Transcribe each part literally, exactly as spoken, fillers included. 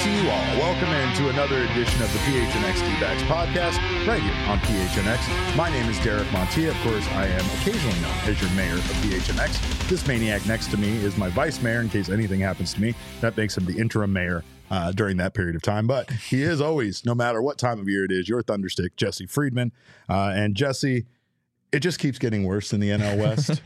you all. Welcome into another edition of the P H N X D-Backs podcast right here on P H N X. My name is Derek Montilla. Of course, I am occasionally known as your mayor of P H N X. This maniac next to me is my vice mayor in case anything happens to me. That makes him the interim mayor uh, during that period of time. But he is always, no matter what time of year it is, your Thunderstick, Jesse Friedman. Uh, and Jesse... It just keeps getting worse in the N L West.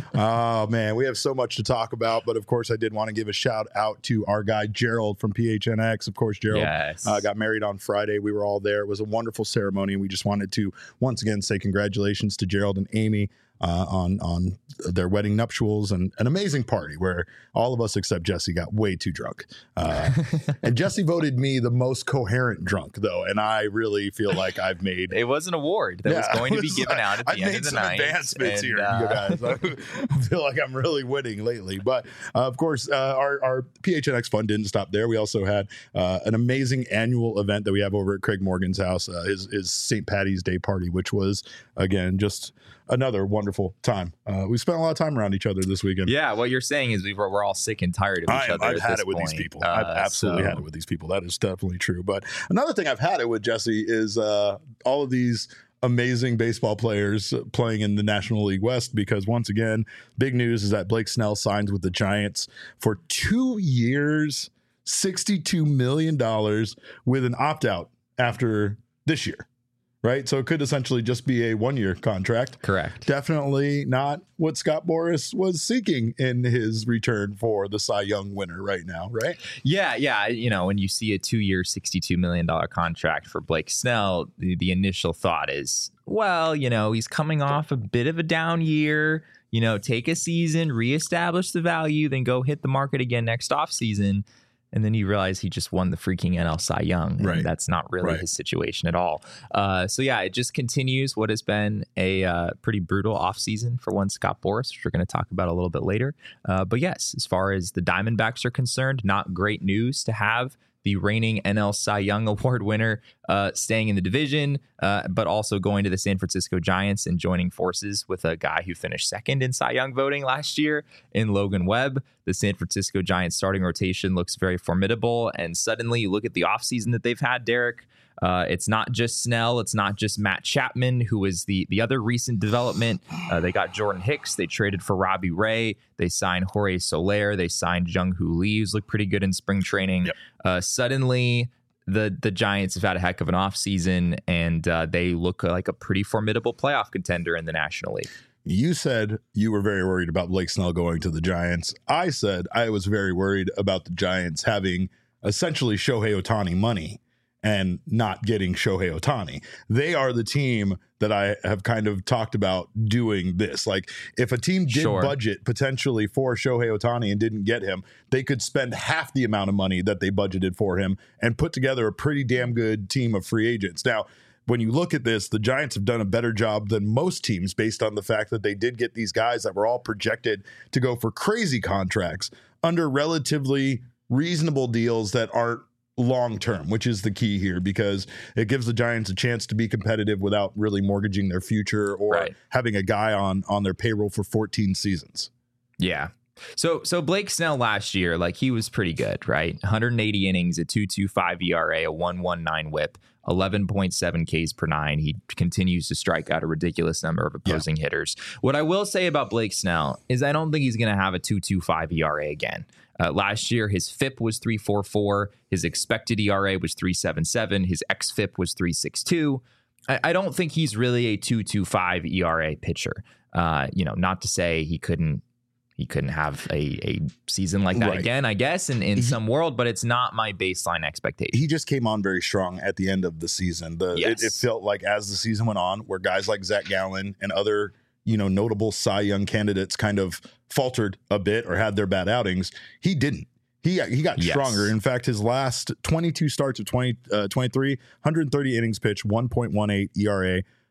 Oh, man, we have so much to talk about. But, of course, I did want to give a shout out to our guy, Gerald from P H N X. Of course, Gerald yes. uh, got married on Friday. We were all there. It was a wonderful ceremony. And we just wanted to, once again, say congratulations to Gerald and Amy uh, on, on their wedding nuptials and an amazing party where all of us except Jesse got way too drunk. Uh, and Jesse voted me the most coherent drunk, though. And I really feel like I've made... It was an award that yeah, was going to be was given like, out at the I've end of the night. I've made some advancements and, here, uh, you guys. I feel like I'm really winning lately. But, uh, of course, uh, our, our P H N X fun didn't stop there. We also had uh, an amazing annual event that we have over at Craig Morgan's house, uh, his, his Saint Patty's Day party, which was, again, just another wonderful time. Uh, we spent a lot of time around each other this weekend. Yeah, what you're saying is we were, we're all sick and tired of each I, other. I've at had this it with point. these people. Uh, I've absolutely so. had it with these people. That is definitely true. But another thing I've had it with, Jesse, is uh, all of these amazing baseball players playing in the National League West, because once again, big news is that Blake Snell signs with the Giants for two years, sixty-two million dollars with an opt-out after this year. Right. So it could essentially just be a one year contract. Correct. Definitely not what Scott Boras was seeking in his return for the Cy Young winner right now. Right. Yeah. Yeah. You know, when you see a two year, sixty-two million dollars contract for Blake Snell, the, the initial thought is, well, you know, he's coming off a bit of a down year, you know, take a season, reestablish the value, then go hit the market again next offseason. And then you realize he just won the freaking N L Cy Young. And right. That's not really right. his situation at all. Uh, so, yeah, it just continues what has been a uh, pretty brutal offseason for one Scott Boras, which we're going to talk about a little bit later. Uh, but, yes, as far as the Diamondbacks are concerned, not great news to have the reigning N L Cy Young Award winner uh, staying in the division, uh, but also going to the San Francisco Giants and joining forces with a guy who finished second in Cy Young voting last year in Logan Webb. The San Francisco Giants starting rotation looks very formidable. And suddenly you look at the offseason that they've had, Derek. Uh, it's not just Snell. It's not just Matt Chapman, who is the, the other recent development. Uh, they got Jordan Hicks. They traded for Robbie Ray. They signed Jorge Soler. They signed Jung-Hoo Lee, who's looked pretty good in spring training. Yep. Uh, suddenly, the the Giants have had a heck of an offseason, and uh, they look like a pretty formidable playoff contender in the National League. You said you were very worried about Blake Snell going to the Giants. I said I was very worried about the Giants having essentially Shohei Ohtani money and not getting Shohei Ohtani. They are the team that I have kind of talked about doing this. Like, if a team did Sure. budget potentially for Shohei Ohtani and didn't get him, they could spend half the amount of money that they budgeted for him and put together a pretty damn good team of free agents. Now, when you look at this, the Giants have done a better job than most teams based on the fact that they did get these guys that were all projected to go for crazy contracts under relatively reasonable deals that aren't long term, which is the key here, because it gives the Giants a chance to be competitive without really mortgaging their future or Right. having a guy on on their payroll for fourteen seasons. Yeah. So so Blake Snell last year, like, he was pretty good, right? one hundred eighty innings, a two point two five E R A, a one point one nine whip, eleven point seven Ks per nine. He continues to strike out a ridiculous number of opposing yeah. hitters. What I will say about Blake Snell is I don't think he's going to have a two point two five E R A again. Uh, last year, his F I P was three point four four. His expected E R A was three point seven seven. His X F I P was three point six two. I, I don't think he's really a two point two five E R A pitcher. Uh, you know, not to say he couldn't he couldn't have a, a season like that right. again, I guess, in, in he, some world, but it's not my baseline expectation. He just came on very strong at the end of the season. The yes. it, it felt like as the season went on, where guys like Zach Gallen and other, you know, notable Cy Young candidates kind of faltered a bit or had their bad outings, he didn't. He he got yes. stronger. In fact, his last twenty-two starts of twenty, uh, twenty-three, one hundred thirty innings pitched, one point one eight E R A,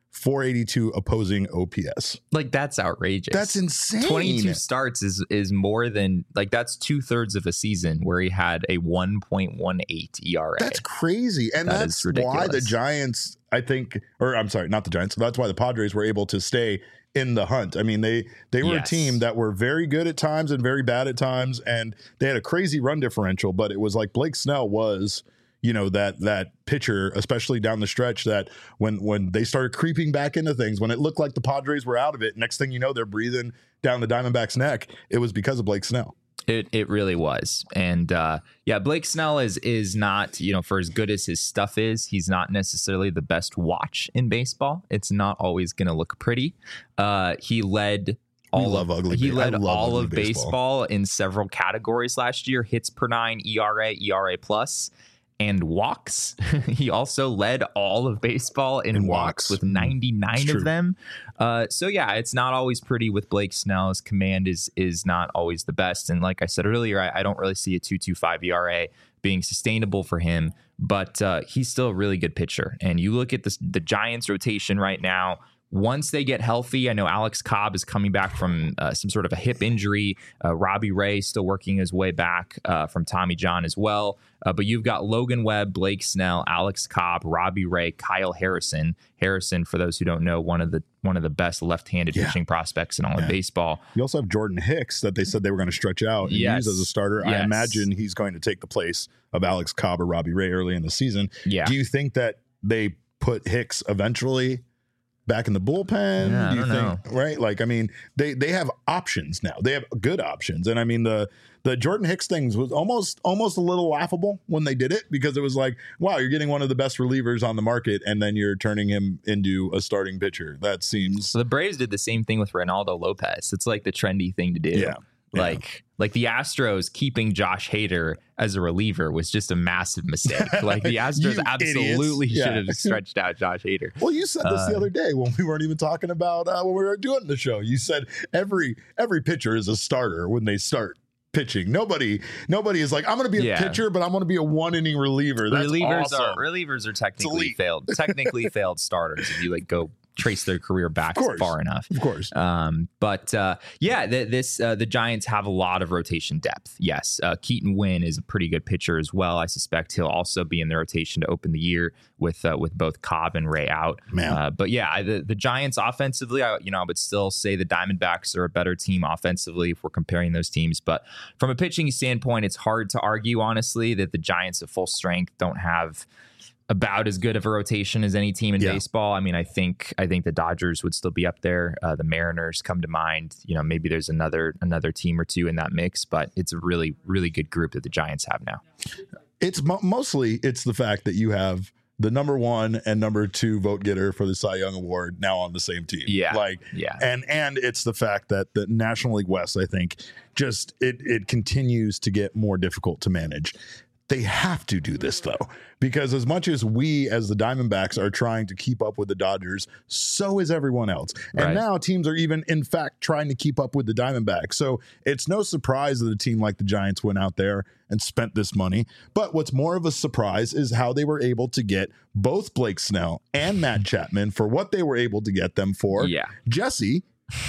four eighty-two opposing O P S. Like, that's outrageous. That's insane. twenty-two starts is is more than, like, that's two thirds of a season where he had a one point one eight E R A. That's crazy. And that that's why the Giants, I think, or I'm sorry, not the Giants. That's why the Padres were able to stay in the hunt. I mean, they they were yes. a team that were very good at times and very bad at times, and they had a crazy run differential, but it was like Blake Snell was, you know, that that pitcher, especially down the stretch, that when when they started creeping back into things, when it looked like the Padres were out of it, next thing you know, they're breathing down the Diamondbacks' neck. It was because of Blake Snell. It it really was. And uh, yeah, Blake Snell is is not, you know, for as good as his stuff is, he's not necessarily the best watch in baseball. It's not always going to look pretty. Uh, he led all of ugly. He led all of baseball. baseball in several categories last year: hits per nine, E R A, E R A plus, and walks. He also led all of baseball in, in walks, walks with ninety-nine of them. Uh, so yeah, it's not always pretty with Blake Snell. His command is is not always the best. And like I said earlier, I, I don't really see a two point two five E R A being sustainable for him, but uh, he's still a really good pitcher. And you look at this, the Giants rotation right now. Once they get healthy, I know Alex Cobb is coming back from uh, some sort of a hip injury. Uh, Robbie Ray still working his way back uh, from Tommy John as well. Uh, but you've got Logan Webb, Blake Snell, Alex Cobb, Robbie Ray, Kyle Harrison. Harrison, for those who don't know, one of the one of the best left-handed yeah. pitching prospects in all yeah. of baseball. You also have Jordan Hicks that they said they were going to stretch out and yes. use as a starter. Yes. I imagine he's going to take the place of Alex Cobb or Robbie Ray early in the season. Yeah. Do you think that they put Hicks eventually back in the bullpen? Yeah, do you I don't think know. Right? Like, I mean, they they have options now. They have good options. And I mean, the the Jordan Hicks things was almost almost a little laughable when they did it, because it was like, wow, you're getting one of the best relievers on the market and then you're turning him into a starting pitcher. That seems so the Braves did the same thing with Reynaldo Lopez. It's like the trendy thing to do. Yeah. Like yeah. like the Astros keeping Josh Hader as a reliever was just a massive mistake. Like the Astros absolutely yeah. should have stretched out Josh Hader. Well, you said this uh, the other day when we weren't even talking about uh, when we were doing the show. You said every every pitcher is a starter when they start pitching. Nobody nobody is like, I'm going to be a yeah. pitcher, but I'm going to be a one inning reliever. That's relievers awesome. are relievers are technically failed technically failed starters if you like go trace their career back far enough. Of course. Um, but uh, yeah, th- this uh, the Giants have a lot of rotation depth. Yes, uh, Keaton Winn is a pretty good pitcher as well. I suspect he'll also be in the rotation to open the year with uh, with both Cobb and Ray out. Man. Uh, but yeah, the, the Giants offensively, I, you know, I would still say the Diamondbacks are a better team offensively if we're comparing those teams. But from a pitching standpoint, it's hard to argue, honestly, that the Giants at full strength don't have about as good of a rotation as any team in yeah. baseball. I mean, I think I think the Dodgers would still be up there. Uh, the Mariners come to mind. You know, maybe there's another another team or two in that mix, but it's a really, really good group that the Giants have now. It's mo- mostly it's the fact that you have the number one and number two vote getter for the Cy Young Award now on the same team. Yeah. Like, yeah. And, and it's the fact that the National League West, I think, just it it continues to get more difficult to manage. They have to do this, though, because as much as we as the Diamondbacks are trying to keep up with the Dodgers, so is everyone else. And right. now teams are even, in fact, trying to keep up with the Diamondbacks. So it's no surprise that a team like the Giants went out there and spent this money. But what's more of a surprise is how they were able to get both Blake Snell and Matt Chapman for what they were able to get them for. Yeah. Jesse,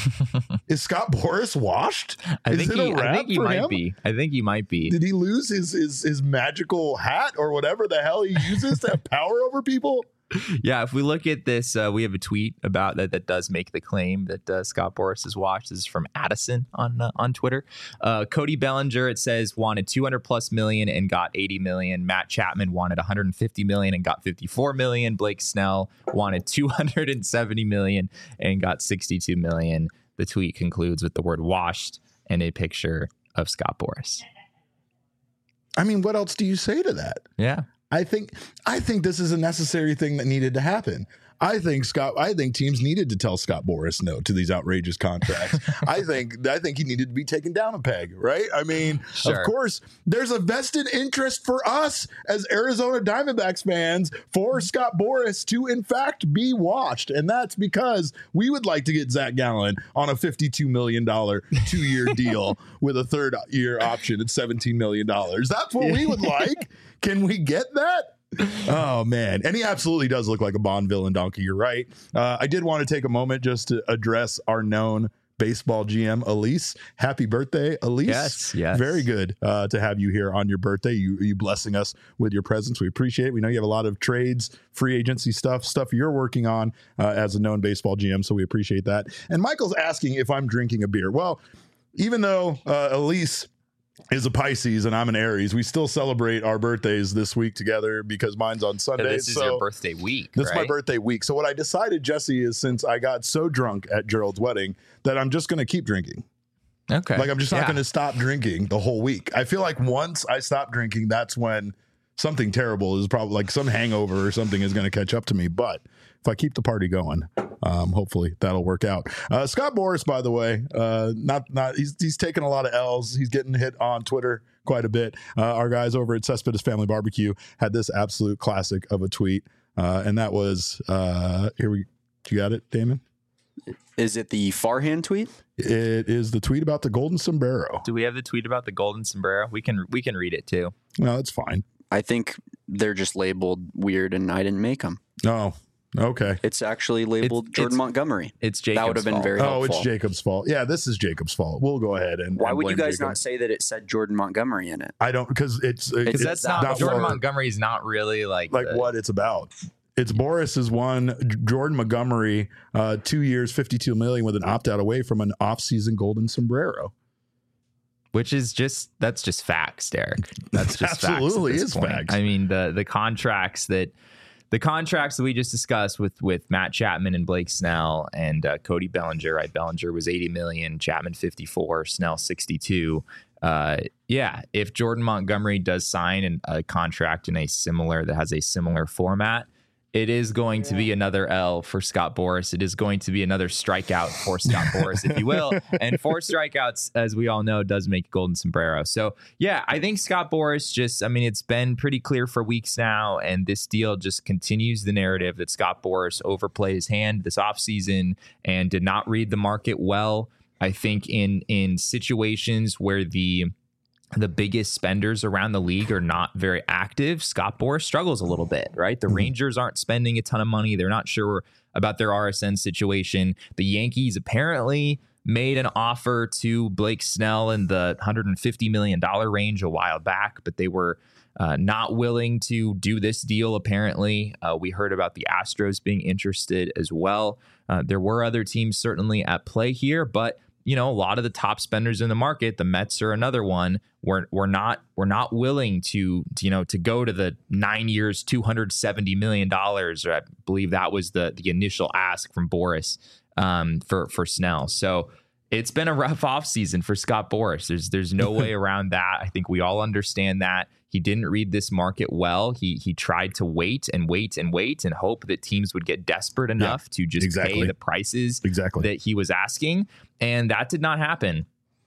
is Scott Boras washed? I is think it he, a wrap I think he for might him? be. I think he might be. Did he lose his, his his magical hat or whatever the hell he uses to have power over people? Yeah, if we look at this, uh, we have a tweet about that that does make the claim that uh, Scott Boras is washed. This is from Addison on uh, on Twitter. Uh, Cody Bellinger, it says, wanted two hundred plus million and got eighty million. Matt Chapman wanted one hundred fifty million and got fifty-four million. Blake Snell wanted two hundred seventy million and got sixty-two million. The tweet concludes with the word washed and a picture of Scott Boras. I mean, what else do you say to that? Yeah. I think I think this is a necessary thing that needed to happen. I think Scott. I think teams needed to tell Scott Boras no to these outrageous contracts. I think I think he needed to be taken down a peg. Right? I mean, sure. Of course, there's a vested interest for us as Arizona Diamondbacks fans for Scott Boras to, in fact, be washed, and that's because we would like to get Zach Gallen on a fifty-two million dollars two-year deal with a third-year option at seventeen million dollars. That's what we would like. Can we get that? Oh, man. And he absolutely does look like a Bond villain, Donkey. You're right. Uh, I did want to take a moment just to address our known baseball G M, Elise. Happy birthday, Elise. Yes, yes. Very good uh, to have you here on your birthday. You, you blessing us with your presence. We appreciate it. We know you have a lot of trades, free agency stuff, stuff you're working on uh, as a known baseball G M, so we appreciate that. And Michael's asking if I'm drinking a beer. Well, even though uh, Elise is a Pisces and I'm an Aries, we still celebrate our birthdays this week together because mine's on Sunday. So this is so your birthday week, This right? is my birthday week. So what I decided, Jesse, is since I got so drunk at Gerald's wedding that I'm just going to keep drinking. Okay. Like I'm just not Yeah. going to stop drinking the whole week. I feel like once I stop drinking, that's when something terrible is probably like some hangover or something is going to catch up to me. But if I keep the party going, um, hopefully that'll work out. Uh, Scott Boras, by the way, uh, not not he's he's taking a lot of L's. He's getting hit on Twitter quite a bit. Uh, our guys over at Cespedes Family Barbecue had this absolute classic of a tweet, uh, and that was uh, here we. You got it, Damon? Is it the Farhan tweet? It is the tweet about the golden sombrero. Do we have the tweet about the golden sombrero? We can we can read it too. No, it's fine. I think they're just labeled weird, and I didn't make them. Oh, okay. It's actually labeled It's- Jordan it's- Montgomery. It's Jacob's That would have been fault. very Oh, helpful. it's Jacob's fault. Yeah, this is Jacob's fault. We'll go ahead and. Why and would you blame guys Jacob. not say that it said Jordan Montgomery in it? I don't because it's Because Because that's not, Jordan what- Montgomery is not really like like the- what it's about. It's Boris's one. Jordan Montgomery, uh, two years, fifty-two million with an opt out away from an off-season golden sombrero. which is just that's just facts, Derek. That's just Absolutely facts at this is point. facts. I mean the the contracts that the contracts that we just discussed with with Matt Chapman and Blake Snell and uh, Cody Bellinger. Right, Bellinger was eighty million, Chapman fifty-four, Snell sixty-two. Uh, yeah, if Jordan Montgomery does sign an, a contract in a similar that has a similar format, it is going to be another L for Scott Boras. It is going to be another strikeout for Scott Boras, if you will. And four strikeouts, as we all know, does make golden sombrero. So, yeah, I think Scott Boras just, I mean, it's been pretty clear for weeks now, and this deal just continues the narrative that Scott Boras overplayed his hand this offseason and did not read the market well. I think in in situations where the the biggest spenders around the league are not very active, Scott Boras struggles a little bit, right? The mm-hmm. Rangers aren't spending a ton of money. They're not sure about their R S N situation. The Yankees apparently made an offer to Blake Snell in the one hundred fifty million dollars range a while back, but they were uh, not willing to do this deal, apparently. Uh, we heard about the Astros being interested as well. Uh, there were other teams certainly at play here, but you know, a lot of the top spenders in the market, the Mets are another one. We're we're not we're not willing to, you know, to go to the nine years, two hundred seventy million dollars. I believe that was the the initial ask from Boras um, for for Snell. So it's been a rough offseason for Scott Boras. There's there's no way around that. I think we all understand that. He didn't read this market well. He he tried to wait and wait and wait and hope that teams would get desperate enough yeah, to just exactly. pay the prices exactly. that he was asking. And that did not happen.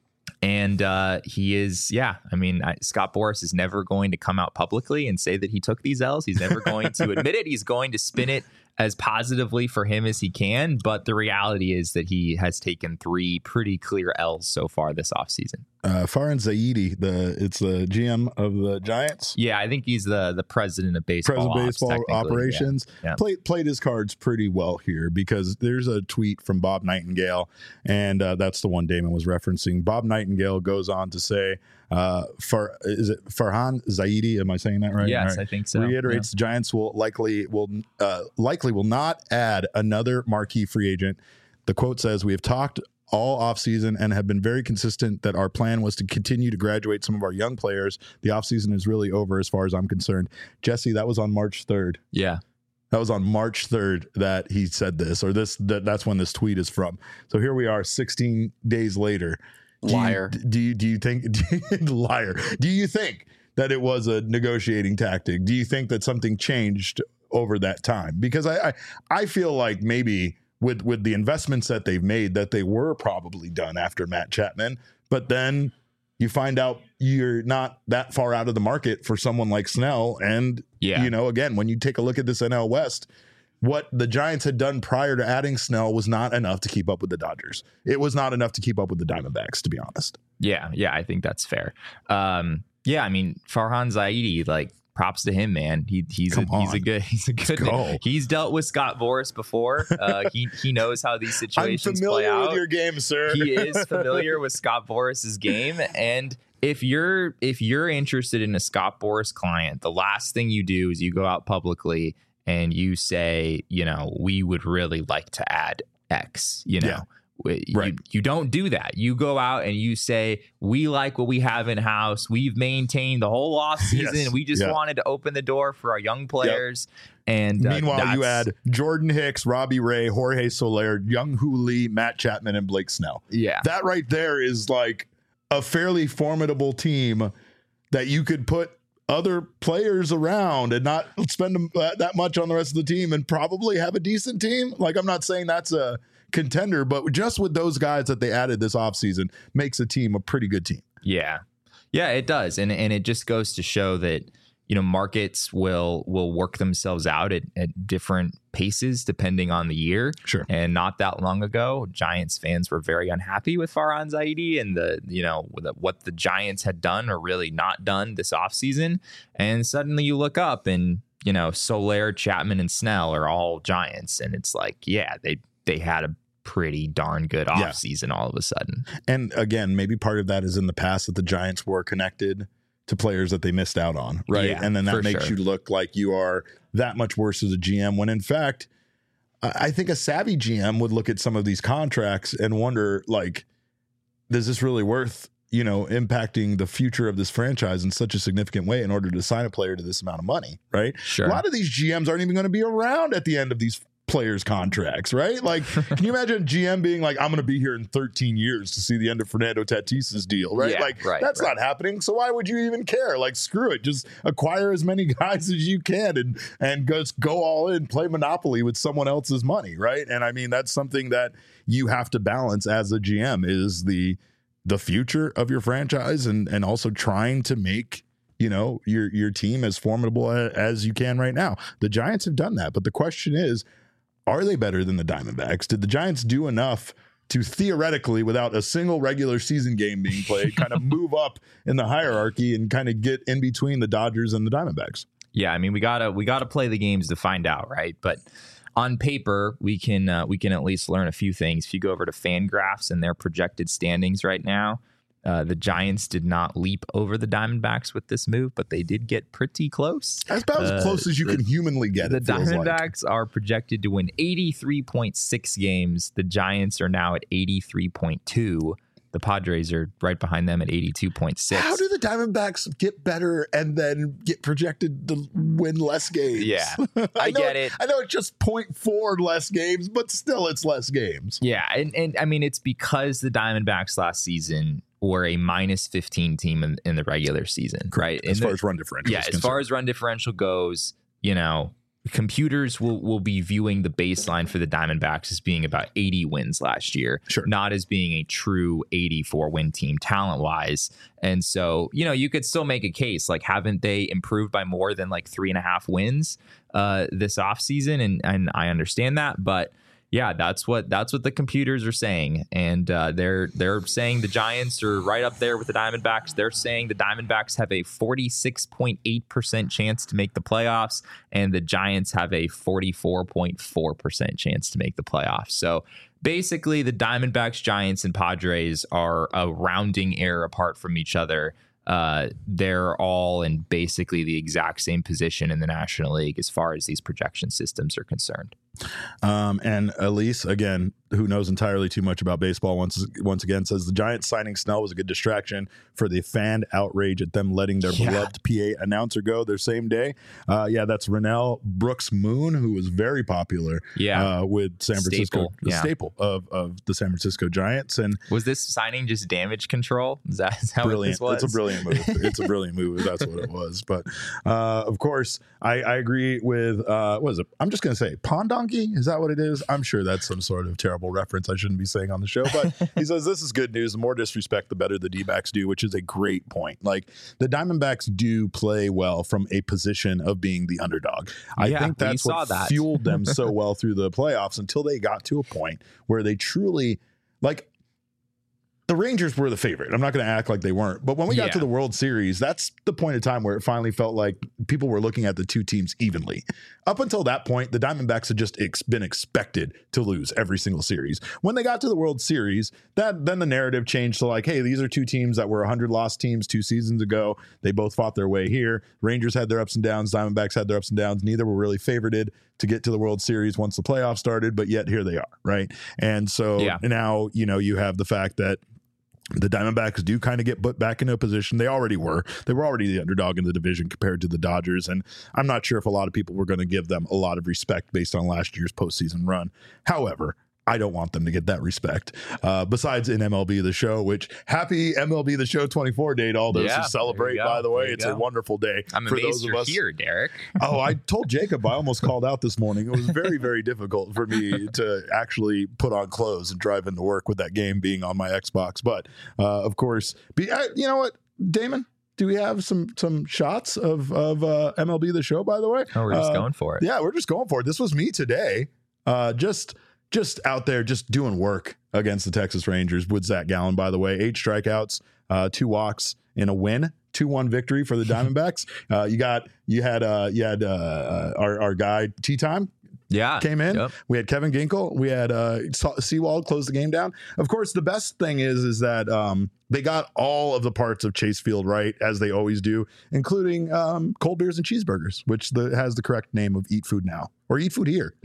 And uh, he is, yeah, I mean, I, Scott Boras is never going to come out publicly and say that he took these L's. He's never going to admit it. He's going to spin it as positively for him as he can. But the reality is that he has taken three pretty clear L's so far this offseason. Uh, Farhan Zaidi, the it's the G M of the Giants. Yeah, I think he's the the president of baseball, president of baseball ops, operations. Yeah. Yeah. Played played his cards pretty well here because there's a tweet from Bob Nightingale, and uh, that's the one Damon was referencing. Bob Nightingale goes on to say, uh, "Far is it Farhan Zaidi? Am I saying that right? Yes, right. I think so. Reiterates yeah. the Giants will likely will uh, likely will not add another marquee free agent. The quote says, "We have talked all offseason and have been very consistent that our plan was to continue to graduate some of our young players. The offseason is really over as far as I'm concerned." Jesse, that was on March third. Yeah. That was on March third that he said this, or this that, that's when this tweet is from. So here we are sixteen days later. Do Liar. You, do you do you think do you, liar? Do you think that it was a negotiating tactic? Do you think that something changed over that time? Because I I, I feel like maybe with with the investments that they've made, that they were probably done after Matt Chapman, but then you find out you're not that far out of the market for someone like Snell. And, yeah. you know, again, when you take a look at this N L West, what the Giants had done prior to adding Snell was not enough to keep up with the Dodgers. It was not enough to keep up with the Diamondbacks, to be honest. Yeah, yeah, I think that's fair. Um, yeah, I mean, Farhan Zaidi, like, props to him, man. He he's Come a, he's on. a good he's a good go. he's dealt with Scott Boras before. Uh, he he knows how these I'm situations play familiar out. with your game, sir. He is familiar with Scott Boras's game, and if you're if you're interested in a Scott Boras client, the last thing you do is you go out publicly and you say, you know, we would really like to add X, you know. Yeah. You, Right. you don't do that. You go out and you say, we like what we have in house. We've maintained the whole off season. Yes. We just Yeah. wanted to open the door for our young players. And uh, Meanwhile, you that's- add Jordan Hicks, Robbie Ray, Jorge Soler, Young Hoo Lee, Matt Chapman, and Blake Snell. yeah, That right there is like a fairly formidable team that you could put other players around and not spend them that, that much on the rest of the team and probably have a decent team. Like, I'm not saying that's a contender, but just with those guys that they added this offseason makes a team a pretty good team. Yeah. Yeah, it does. And and it just goes to show that, you know, markets will will work themselves out at, at different paces depending on the year. Sure. And not that long ago, Giants fans were very unhappy with Farhan Zaidi and the, you know, the, what the Giants had done or really not done this offseason. And suddenly you look up and, you know, Soler, Chapman, and Snell are all Giants. And it's like, yeah, they they had a pretty darn good Yeah. offseason all of a sudden. And again, maybe part of that is in the past that the Giants were connected to players that they missed out on, right? Yeah, and then that for makes sure. you look like you are that much worse as a G M when in fact, I I think a savvy G M would look at some of these contracts and wonder, like, is this really worth, you know, impacting the future of this franchise in such a significant way in order to sign a player to this amount of money, right? Sure. A lot of these G Ms aren't even going to be around at the end of these players' contracts, right? Like, can you imagine a G M being like, I'm going to be here in thirteen years to see the end of Fernando Tatis's deal, right? Yeah, like, right, that's right. not happening. So why would you even care? Like, screw it. Just acquire as many guys as you can and and just go all in, play Monopoly with someone else's money, right? And I mean, that's something that you have to balance as a G M is the the future of your franchise and and also trying to make, you know, your your team as formidable a- as you can right now. The Giants have done that, but the question is, are they better than the Diamondbacks? Did the Giants do enough to theoretically, without a single regular season game being played, kind of move up in the hierarchy and kind of get in between the Dodgers and the Diamondbacks? Yeah, I mean, we gotta we gotta play the games to find out, right? But on paper, we can uh, we can at least learn a few things. If you go over to FanGraphs and their projected standings right now, uh, the Giants did not leap over the Diamondbacks with this move, but they did get pretty close. That's about Uh, as close as you the- can humanly get. The It feels like. Diamondbacks are projected to win eighty-three point six games. The Giants are now at eighty-three point two. The Padres are right behind them at eighty-two point six. How do the Diamondbacks get better and then get projected to win less games? Yeah, I, I know, get it. I know it's just zero point four less games, but still it's less games. Yeah, and, and I mean, it's because the Diamondbacks last season were a minus fifteen team in, in the regular season, right? As In far the- as run differential. yeah, is as far concerned. as run differential goes, you know, computers will will be viewing the baseline for the Diamondbacks as being about eighty wins last year, Sure. not as being a true eighty-four win team talent wise. And so, you know, you could still make a case like, haven't they improved by more than like three and a half wins uh, this offseason? And and I understand that, but yeah, that's what that's what the computers are saying, and uh, they're they're saying the Giants are right up there with the Diamondbacks. They're saying the Diamondbacks have a forty-six point eight percent chance to make the playoffs, and the Giants have a forty-four point four percent chance to make the playoffs. So basically, the Diamondbacks, Giants, and Padres are a rounding error apart from each other. Uh, they're all in basically the exact same position in the National League as far as these projection systems are concerned. Um, and Elise, again, who knows entirely too much about baseball, once once again says the Giants signing Snell was a good distraction for the fan outrage at them letting their Yeah. beloved P A announcer go their same day. Uh, yeah, that's Rennell Brooks Moon, who was very popular Yeah. uh, with San Francisco, Staple, the yeah. staple of, of the San Francisco Giants. And Was this signing just damage control? Is that, is that what brilliant. this was? It's a brilliant move. It's a brilliant move. If that's what it was. But uh, of course, I, I agree with uh, what is it? I'm just going to say Pond Donkey. Is that what it is? I'm sure that's some sort of terrible reference I shouldn't be saying on the show. But he says this is good news. The more disrespect, the better the D-backs do, which is a great point. Like the Diamondbacks do play well from a position of being the underdog. I Yeah, think we that's saw what that. fueled them so well through the playoffs until they got to a point where they truly like. the Rangers were the favorite. I'm not going to act like they weren't. But when we got Yeah. to the World Series, that's the point of time where it finally felt like people were looking at the two teams evenly. Up until that point, the Diamondbacks had just ex- been expected to lose every single series. When they got to the World Series, that then the narrative changed to like, hey, these are two teams that were one hundred loss teams two seasons ago. They both fought their way here. Rangers had their ups and downs. Diamondbacks had their ups and downs. Neither were really favorited to get to the World Series once the playoffs started, but yet here they are, right? And so Yeah. now, you know, you have the fact that the Diamondbacks do kind of get put back into a position. They already were. They were already the underdog in the division compared to the Dodgers. And I'm not sure if a lot of people were going to give them a lot of respect based on last year's postseason run. However, I don't want them to get that respect. Uh, besides in M L B The Show, which happy M L B The Show twenty-four day to all those Yeah, who celebrate, there you go. by the way. There you It's go. a wonderful day I'm for amazed those of you're us. here, Derek. Oh, I told Jacob I almost called out this morning. It was very, very difficult for me to actually put on clothes and drive into work with that game being on my Xbox. But uh, of course, be, uh, you know what, Damon? Do we have some some shots of of uh, M L B The Show? By the way, Oh, we're just Uh, going for it. yeah, we're just going for it. This was me today, uh, just just out there, just doing work against the Texas Rangers with Zach Gallen. By the way, eight strikeouts, uh, two walks in a win. two one victory for the Diamondbacks. uh, you got, you had, uh, you had, uh, our, our guy Tea Time Yeah. came in. Yep. We had Kevin Ginkel. We had, uh, Seawald close the game down. Of course, the best thing is, is that, um, they got all of the parts of Chase Field right, as they always do, including, um, cold beers and cheeseburgers, which the, has the correct name of Eat Food Now or Eat Food Here.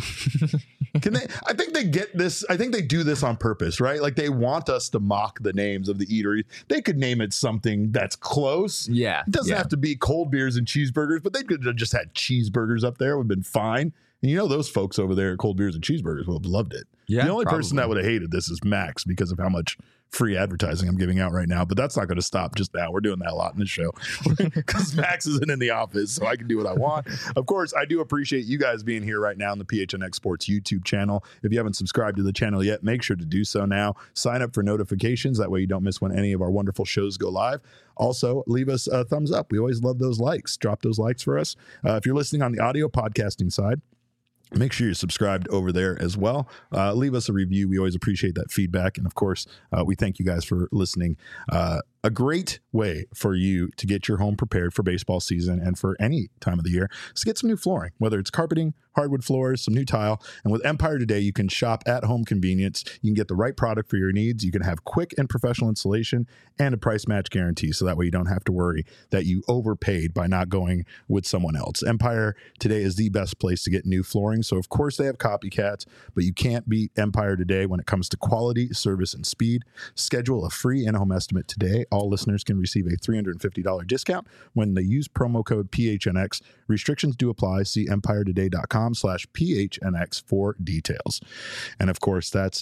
Can they, I think they get this. I think they do this on purpose, right? Like they want us to mock the names of the eateries. They could name it something that's close. Yeah. It doesn't yeah. have to be cold beers and cheeseburgers, but they could have just had cheeseburgers up there. It would have been fine. And you know, those folks over there at Cold Beers and Cheeseburgers would have loved it. Yeah, the only person probably. that would have hated this is Max because of how much free advertising I'm giving out right now. But that's not going to stop just now. We're doing that a lot in this show because Max isn't in the office, so I can do what I want. Of course, I do appreciate you guys being here right now on the P H N X Sports YouTube channel. If you haven't subscribed to the channel yet, make sure to do so now. Sign up for notifications. That way you don't miss when any of our wonderful shows go live. Also, leave us a thumbs up. We always love those likes. Drop those likes for us. Uh, if you're listening on the audio podcasting side, make sure you're subscribed over there as well. Uh, leave us a review. We always appreciate that feedback. And of course, uh, we thank you guys for listening. Uh, a great way for you to get your home prepared for baseball season and for any time of the year is to get some new flooring, whether it's carpeting, hardwood floors, some new tile. And with Empire Today, you can shop at home convenience. You can get the right product for your needs. You can have quick and professional installation and a price match guarantee. So that way you don't have to worry that you overpaid by not going with someone else. Empire Today is the best place to get new flooring. So of course they have copycats, but you can't beat Empire Today when it comes to quality, service, and speed. Schedule a free in-home estimate today. All listeners can receive a three hundred fifty dollars discount when they use promo code P H N X. Restrictions do apply. See empire today dot com slash P H N X for details. And of course, that's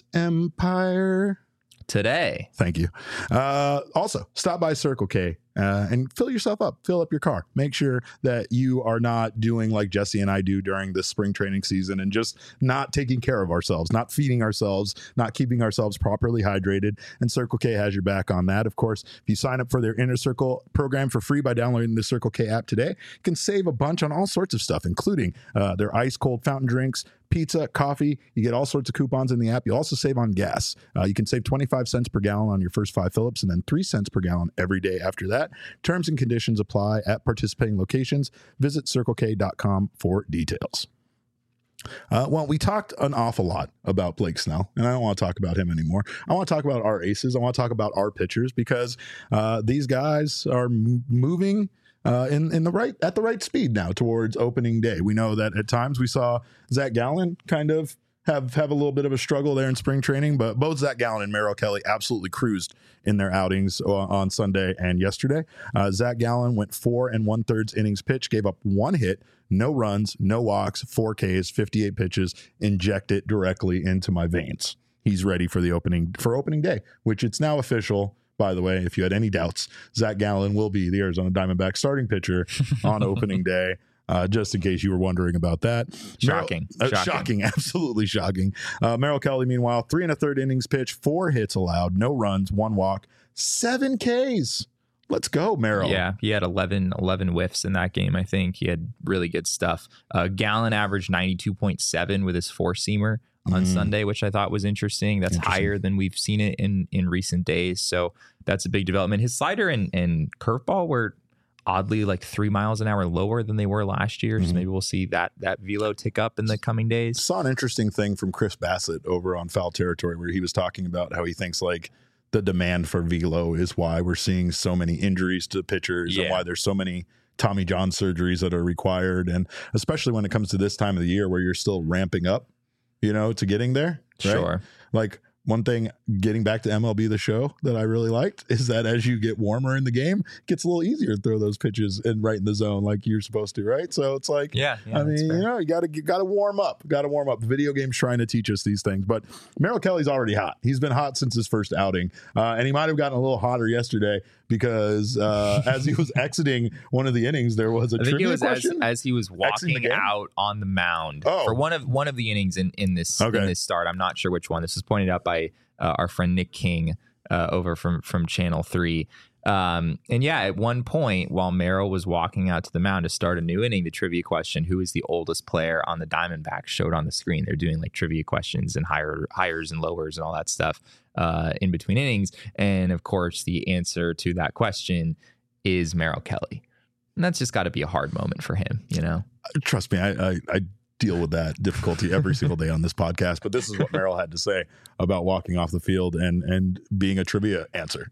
Empire Today. Thank you. Uh, also, stop by Circle K uh, and fill yourself up. Fill up your car. Make sure that you are not doing like Jesse and I do during this spring training season and just not taking care of ourselves, not feeding ourselves, not keeping ourselves properly hydrated. And Circle K has your back on that. Of course, if you sign up for their Inner Circle program for free by downloading the Circle K app today, you can save a bunch on all sorts of stuff, including uh, their ice cold fountain drinks, pizza, coffee. You get all sorts of coupons in the app. You also save on gas. Uh, you can save twenty-five cents per gallon on your first five Phillips and then three cents per gallon every day after that. Terms and conditions apply at participating locations. Visit circle k dot com for details. Uh, well, we talked an awful lot about Blake Snell, and I don't want to talk about him anymore. I want to talk about our aces. I want to talk about our pitchers because uh, these guys are m- moving Uh, in in the right at the right speed now towards opening day. We know that at times we saw Zach Gallen kind of have have a little bit of a struggle there in spring training, but both Zach Gallen and Merrill Kelly absolutely cruised in their outings on Sunday and yesterday. Uh, Zach Gallen went four and one thirds innings pitched, gave up one hit, no runs, no walks, four Ks, fifty-eight pitches, inject it directly into my veins. He's ready for the opening for opening day, which it's now official. By the way, if you had any doubts, Zach Gallen will be the Arizona Diamondbacks starting pitcher on opening day, uh, just in case you were wondering about that. Shocking. Merrill, uh, Shocking. shocking. Absolutely shocking. Uh, Merrill Kelly, meanwhile, three and a third innings pitched, four hits allowed, no runs, one walk, seven Ks. Let's go, Merrill. Yeah, he had eleven, eleven whiffs in that game, I think. He had really good stuff. Uh, Gallen averaged ninety-two point seven with his four-seamer on Mm. Sunday, which I thought was interesting. That's Interesting. higher than we've seen it in in recent days. So that's a big development. His slider and, and curveball were oddly like three miles an hour lower than they were last year. Mhm. So maybe we'll see that that velo tick up in the coming days. Saw an interesting thing from Chris Bassett over on Foul Territory where he was talking about how he thinks like the demand for velo is why we're seeing so many injuries to pitchers and Yeah. why there's so many Tommy John surgeries that are required, and especially when it comes to this time of the year where you're still ramping up, you know, to getting there. Right? Sure. Like one thing, getting back to M L B The Show that I really liked is that as you get warmer in the game, it gets a little easier to throw those pitches and right in the zone like you're supposed to, right? So it's like, Yeah. yeah I that's mean, fair. you know, you got to got to warm up. Got to warm up. The video game's trying to teach us these things. But Merrill Kelly's already hot. He's been hot since his first outing, uh, and he might have gotten a little hotter yesterday because uh, as he was exiting one of the innings, there was a I think it trivia was as, question. as he was the walking game? out on the mound Oh. for one of one of the innings in in this Okay. in this start. I'm not sure which one. This was pointed out by uh, our friend Nick King uh, over from from Channel Three. Um, and yeah, at one point while Merrill was walking out to the mound to start a new inning, the trivia question, who is the oldest player on the Diamondbacks, showed on the screen. They're doing like trivia questions and higher hires and lowers and all that stuff uh, in between innings. And of course, the answer to that question is Merrill Kelly. And that's just got to be a hard moment for him, you know? Trust me, I, I, I deal with that difficulty every single day on this podcast. But this is what Merrill had to say about walking off the field and and being a trivia answer.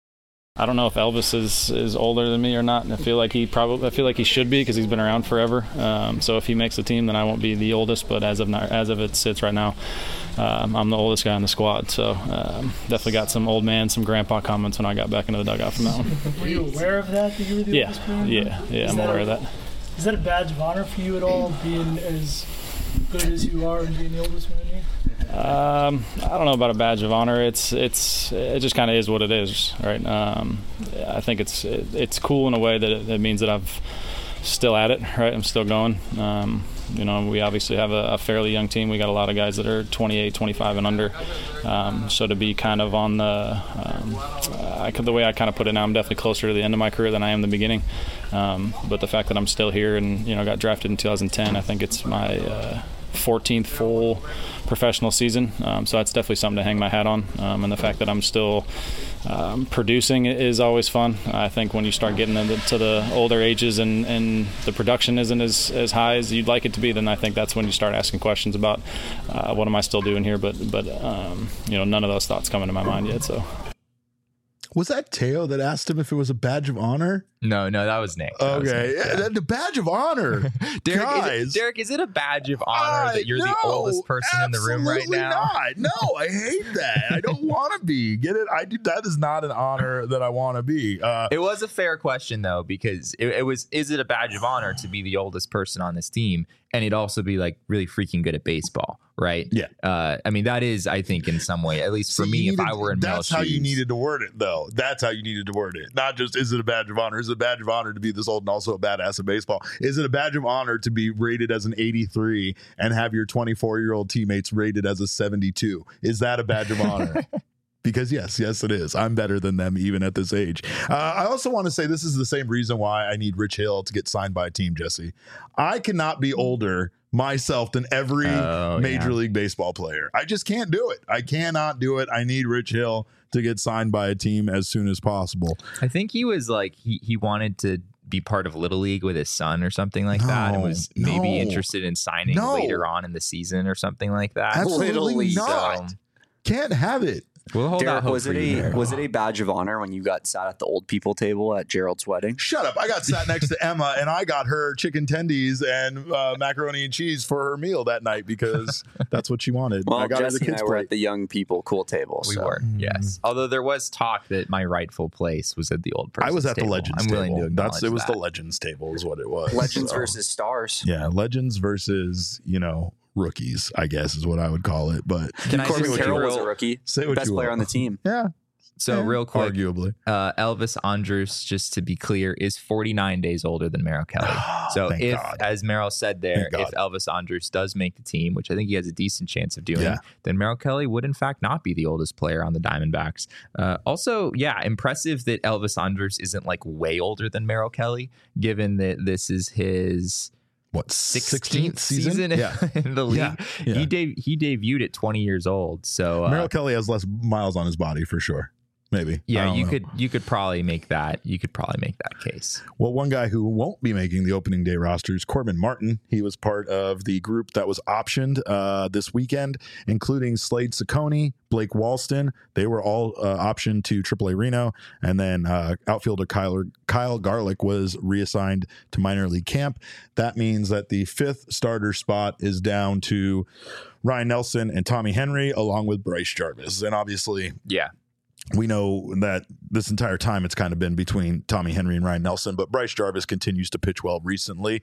I don't know if Elvis is, is older than me or not, and I feel like he probably I feel like he should be because he's been around forever. Um, so if he makes the team, then I won't be the oldest. But as of now, as of it sits right now, um, I'm the oldest guy on the squad. So um, definitely got some old man, some grandpa comments when I got back into the dugout from that one. Were you aware of that? That you were the Yeah, oldest player? yeah, yeah. Is I'm that aware a- of that. Is that a badge of honor for you at all, being as good as you are and being the oldest one in here? Um, I don't know about a badge of honor. It's it's it just kind of is what it is, right? Um, I think it's it, it's cool in a way that it, it means that I've still at it, right? I'm still going. Um, you know, we obviously have a, a fairly young team. We got a lot of guys that are twenty-eight, twenty-five and under. Um, so to be kind of on the um, I could, the way I kind of put it now, I'm definitely closer to the end of my career than I am the beginning. Um, but the fact that I'm still here and you know got drafted in two thousand ten, I think it's my uh, fourteenth full professional season, um, so that's definitely something to hang my hat on. Um, and the fact that I'm still um, producing is always fun. I think when you start getting into to the older ages and, and the production isn't as, as high as you'd like it to be, then I think that's when you start asking questions about uh, what am I still doing here. But but um, you know none of those thoughts come into my mind yet. So. Was that Teo that asked him if it was a badge of honor? No, no, that was Nick. That was Okay, Nick, yeah. the badge of honor. Derek, Guys. is it, Derek, is it a badge of honor Uh, that you're the no, oldest person in the room right absolutely now? Not. No, I hate that. I don't want to be. Get it? I do. That is not an honor that I want to be. Uh, It was a fair question though, because it, it was, is it a badge of honor to be the oldest person on this team? And it'd also be like really freaking good at baseball, right? Yeah. Uh, I mean, that is, I think in some way, at least for See, me, you if needed- I were in that's Mel's how you shoes- needed to word it, though. That's how you needed to word it. Not just is it a badge of honor? Is it a badge of honor to be this old and also a badass at baseball? Is it a badge of honor to be rated as an eighty-three and have your twenty-four year old teammates rated as a seventy-two? Is that a badge of honor? Because yes, yes, it is. I'm better than them even at this age. Uh, I also want to say this is the same reason why I need Rich Hill to get signed by a team, Jesse. I cannot be older myself than every Oh, Major yeah. League Baseball player. I just can't do it. I cannot do it. I need Rich Hill to get signed by a team as soon as possible. I think he was like, he, he wanted to be part of Little League with his son or something like that, and No, was maybe no. interested in signing No. later on in the season or something like that. Absolutely Little League. not. So, Can't have it. we'll hold out Derek, hope was for it you a there. was it a badge of honor when you got sat at the old people table at Gerald's wedding? Shut up. I got sat next to Emma and I got her chicken tendies and uh, macaroni and cheese for her meal that night because that's what she wanted. Well, I got Jesse her the and kids I were plate. at the young people cool table. We so. were, yes. Although there was talk that my rightful place was at the old person. I was at the Legends I'm willing table. to That's it acknowledge was that. the Legends table is what it was. Legends So, versus stars. yeah, Legends versus, you know, rookies, I guess is what I would call it. But Can I Corbin just Carroll was a real- rookie, say what best you player will. on the team. Yeah. So yeah, real quick, arguably. uh, Elvis Andrus, just to be clear, is forty-nine days older than Merrill Kelly. So Thank if, God. as Merrill said there, Thank if Elvis Andrus does make the team, which I think he has a decent chance of doing, Yeah. then Merrill Kelly would in fact not be the oldest player on the Diamondbacks. Uh, also, yeah, impressive that Elvis Andrus isn't like way older than Merrill Kelly, given that this is his what sixteenth season, season yeah. in the league. Yeah, yeah. He de- he debuted at twenty years old. So uh, Merrill Kelly has less miles on his body for sure. Maybe. Yeah, you know. could you could probably make that. You could probably make that case. Well, one guy who won't be making the opening day roster is Corbin Martin. He was part of the group that was optioned uh, this weekend, including Slade Ciccone, Blake Walston. They were all uh, optioned to triple A Reno. And then uh, outfielder Kyle, Kyle Garlick was reassigned to minor league camp. That means that the fifth starter spot is down to Ryan Nelson and Tommy Henry, along with Bryce Jarvis. And obviously, yeah. we know that this entire time it's kind of been between Tommy Henry and Ryan Nelson, but Bryce Jarvis continues to pitch well recently,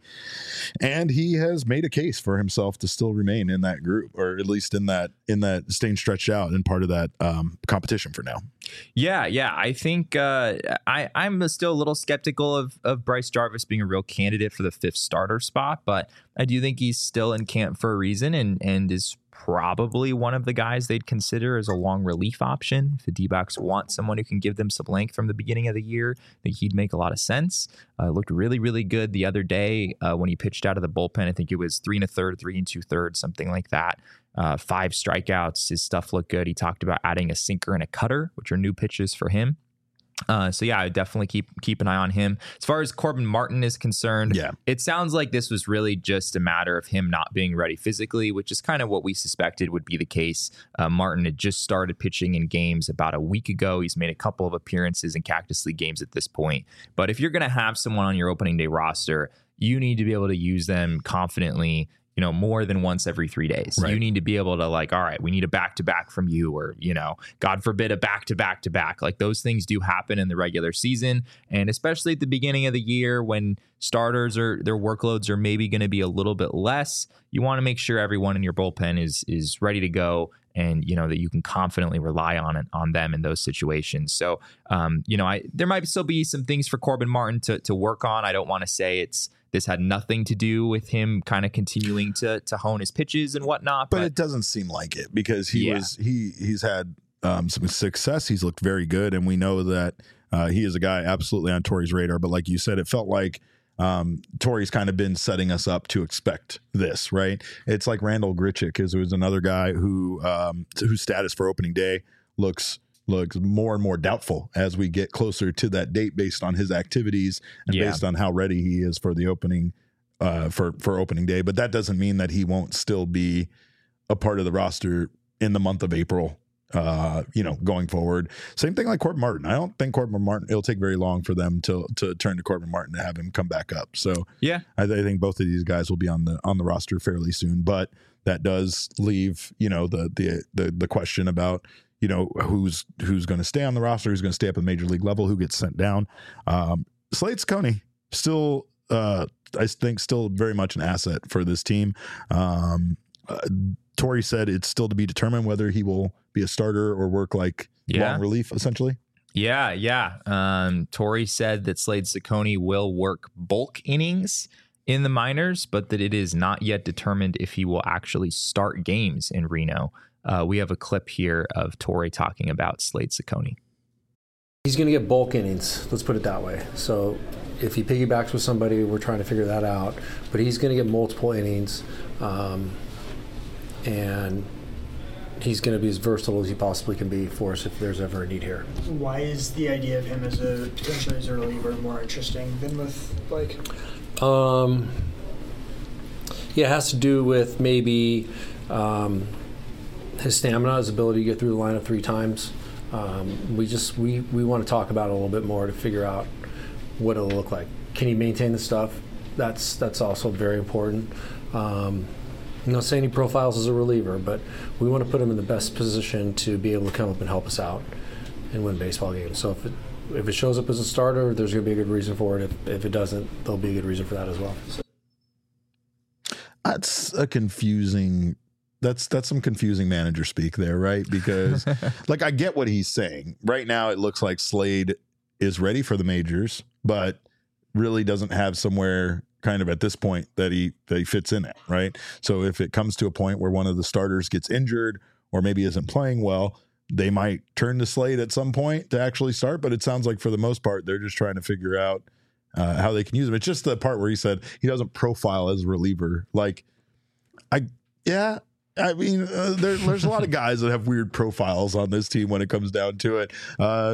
and he has made a case for himself to still remain in that group, or at least in that in that staying stretched out and part of that um, competition for now. Yeah, yeah, I think uh, I I'm still a little skeptical of of Bryce Jarvis being a real candidate for the fifth starter spot, but I do think he's still in camp for a reason, and and is probably one of the guys they'd consider as a long relief option. If the D-backs want someone who can give them some length from the beginning of the year, I think he'd make a lot of sense. Uh, looked really, really good the other day uh, when he pitched out of the bullpen. I think it was three and a third, three and two thirds, something like that. Uh, five strikeouts. His stuff looked good. He talked about adding a sinker and a cutter, which are new pitches for him. Uh, so yeah, I would definitely keep keep an eye on him. As far as Corbin Martin is concerned, yeah. it sounds like this was really just a matter of him not being ready physically, which is kind of what we suspected would be the case. Uh, Martin had just started pitching in games about a week ago. He's made a couple of appearances in Cactus League games at this point. But if you're going to have someone on your opening day roster, you need to be able to use them confidently, you know, more than once every three days. Right. You need to be able to, like, all right, we need a back-to-back from you, or, you know, God forbid a back-to-back-to-back. Like, those things do happen in the regular season. And especially at the beginning of the year when starters are, their workloads are maybe going to be a little bit less, you want to make sure everyone in your bullpen is, is ready to go, and, you know, that you can confidently rely on it, on them in those situations. So, um, you know, I, there might still be some things for Corbin Martin to, to work on. I don't want to say it's, this had nothing to do with him kind of continuing to to hone his pitches and whatnot. But, but it doesn't seem like it, because he yeah. was he he's had um, some success. He's looked very good, and we know that uh, he is a guy absolutely on Torey's radar. But like you said, it felt like um, Torey's kind of been setting us up to expect this, right? It's like Randall Grichuk, is was another guy who um, whose status for opening day looks. looks more and more doubtful as we get closer to that date, based on his activities and yeah. based on how ready he is for the opening uh, for, for opening day. But that doesn't mean that he won't still be a part of the roster in the month of April, uh, you know, going forward. Same thing like Corbin Martin. I don't think Corbin Martin, it'll take very long for them to, to turn to Corbin Martin to have him come back up. So yeah, I, I think both of these guys will be on the, on the roster fairly soon, but that does leave, you know, the, the, the, the question about, you know, who's who's going to stay on the roster, who's going to stay up at the major league level, who gets sent down. Um, Slade Ciccone, still, uh, I think, still very much an asset for this team. Um, uh, Torey said it's still to be determined whether he will be a starter or work like yeah. long relief, essentially. Yeah, yeah. Um, Torey said that Slade Ciccone will work bulk innings in the minors, but that it is not yet determined if he will actually start games in Reno. Uh, we have a clip here of Torey talking about Slade Ciccone. He's going to get bulk innings, let's put it that way. So if he piggybacks with somebody, we're trying to figure that out. But he's going to get multiple innings, um, and he's going to be as versatile as he possibly can be for us if there's ever a need here. Why is the idea of him as a potentially as a reliever more interesting than with Blake? Um, yeah, it has to do with maybe um, his stamina, his ability to get through the lineup three times. Um, we just we, we want to talk about it a little bit more to figure out what it'll look like. Can he maintain the stuff? That's that's also very important. Um, I'm not saying he profiles as a reliever, but we want to put him in the best position to be able to come up and help us out and win baseball games. So if it if it shows up as a starter, there's going to be a good reason for it. If if it doesn't, there'll be a good reason for that as well. So. That's a confusing. That's that's some confusing manager speak there, right? Because like I get what he's saying. Right now it looks like Slade is ready for the majors, but really doesn't have somewhere kind of at this point that he that he fits in at, right? So if it comes to a point where one of the starters gets injured or maybe isn't playing well, they might turn to Slade at some point to actually start. But it sounds like for the most part, they're just trying to figure out uh, how they can use him. It's just the part where he said he doesn't profile as a reliever. Like, I yeah. I mean, uh, there, there's a lot of guys that have weird profiles on this team when it comes down to it. Uh,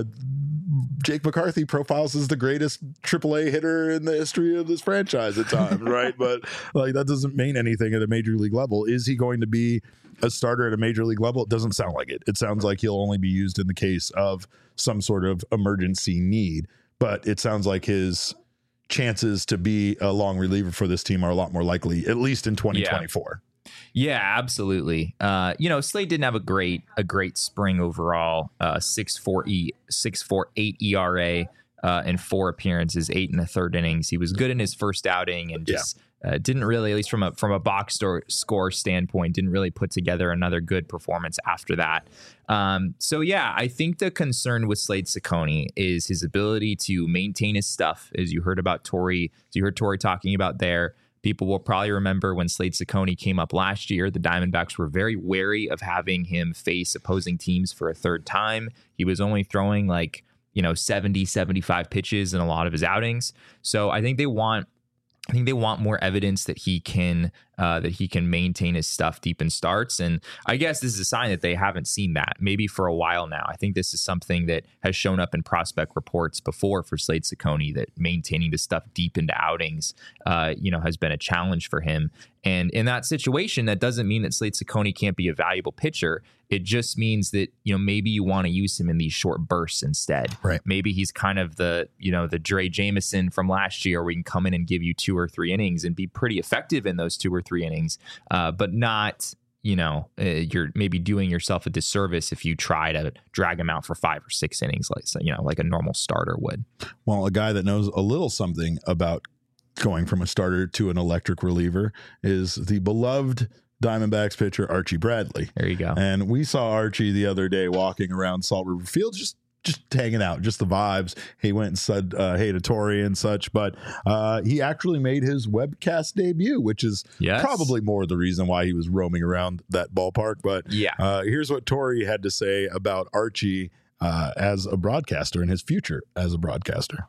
Jake McCarthy profiles as the greatest triple A hitter in the history of this franchise at times, right? But like that doesn't mean anything at a major league level. Is he going to be a starter at a major league level? It doesn't sound like it. It sounds like he'll only be used in the case of some sort of emergency need. But it sounds like his chances to be a long reliever for this team are a lot more likely, at least in twenty twenty-four. Yeah. Yeah, absolutely. Uh, you know, Slade didn't have a great a great spring overall. Uh, six four e six four eight E R A uh, in four appearances, eight in the third innings. He was good in his first outing and just yeah. uh, didn't really, at least from a from a box store score standpoint, didn't really put together another good performance after that. Um, so yeah, I think the concern with Slade Cecconi is his ability to maintain his stuff, as you heard about Torey, as you heard Torey talking about there. People will probably remember when Slade Cecconi came up last year, the Diamondbacks were very wary of having him face opposing teams for a third time. He was only throwing like, you know, seventy, seventy-five pitches in a lot of his outings. So I think they want I think they want more evidence that he can uh, that he can maintain his stuff deep in starts. And I guess this is a sign that they haven't seen that maybe for a while now. I think this is something that has shown up in prospect reports before for Slade Cecconi, that maintaining the stuff deep into outings, uh, you know, has been a challenge for him. And in that situation, that doesn't mean that Slade Cecconi can't be a valuable pitcher. It just means that, you know, maybe you want to use him in these short bursts instead. Right. Maybe he's kind of the, you know, the Dre Jameson from last year, where he can come in and give you two or three innings and be pretty effective in those two or three innings, uh, but not, you know, uh, you're maybe doing yourself a disservice if you try to drag him out for five or six innings, like, you know, like a normal starter would. Well, a guy that knows a little something about going from a starter to an electric reliever is the beloved Diamondbacks pitcher Archie Bradley. There you go. And we saw Archie the other day walking around Salt River Field, just just hanging out, just the vibes. He went and said uh, hey to Torey and such, but uh, he actually made his webcast debut, which is yes. probably more the reason why he was roaming around that ballpark. But yeah, uh, here's what Torey had to say about Archie uh, as a broadcaster and his future as a broadcaster.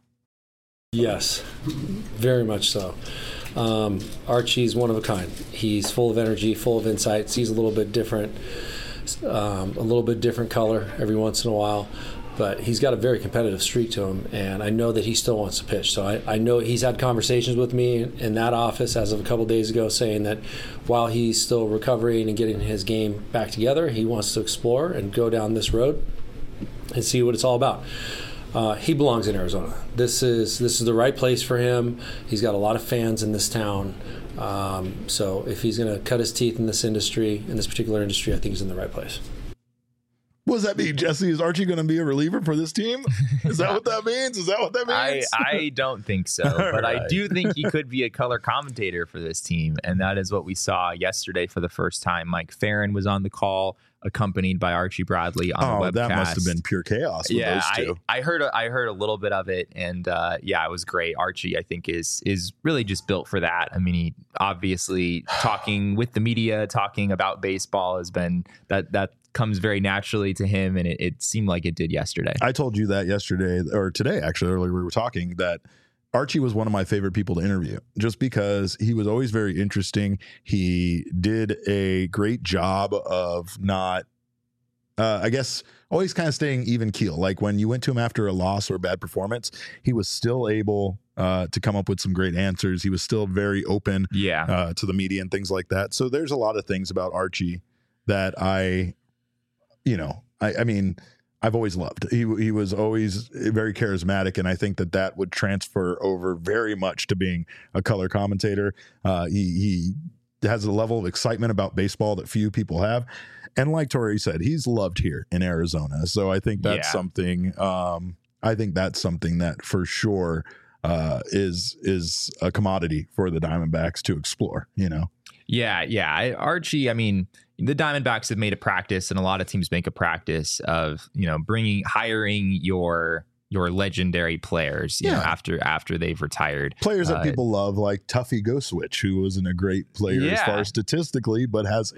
Yes, very much so. Um, Archie's one of a kind. He's full of energy, full of insights. He's a little bit different, um, a little bit different color every once in a while, but he's got a very competitive streak to him, and I know that he still wants to pitch. So I, I know he's had conversations with me in, in that office as of a couple of days ago, saying that while he's still recovering and getting his game back together, he wants to explore and go down this road and see what it's all about. Uh, he belongs in Arizona. This is this is the right place for him. He's got a lot of fans in this town. Um, so if he's going to cut his teeth in this industry, in this particular industry, I think he's in the right place. What does that mean, Jesse? Is Archie going to be a reliever for this team? Is that what that means? Is that what that means? I, I don't think so, but right. I do think he could be a color commentator for this team, and that is what we saw yesterday for the first time. Mike Farron was on the call, accompanied by Archie Bradley on oh, the webcast. That must have been pure chaos with yeah, those two. I, I heard a, I heard a little bit of it, and uh, yeah, it was great. Archie, I think, is is really just built for that. I mean, he obviously talking with the media, talking about baseball has been that that comes very naturally to him, and it, it seemed like it did yesterday. I told you that yesterday, or today, actually, earlier we were talking, that Archie was one of my favorite people to interview just because he was always very interesting. He did a great job of not, uh, I guess, always kind of staying even keel. Like when you went to him after a loss or a bad performance, he was still able uh, to come up with some great answers. He was still very open yeah. uh, to the media and things like that. So there's a lot of things about Archie that I, you know, I, I mean, I've always loved. He he was always very charismatic, and I think that that would transfer over very much to being a color commentator. Uh, he he has a level of excitement about baseball that few people have, and like Torey said, he's loved here in Arizona. So I think that's yeah. something. Um, I think that's something that for sure uh, is is a commodity for the Diamondbacks to explore. You know. Yeah, yeah. I, Archie, I mean, the Diamondbacks have made a practice, and a lot of teams make a practice of, you know, bringing, hiring your your legendary players, you yeah. know, after after they've retired. Players that uh, people love, like Tuffy Go Switch, who wasn't a great player yeah. as far as statistically, but has a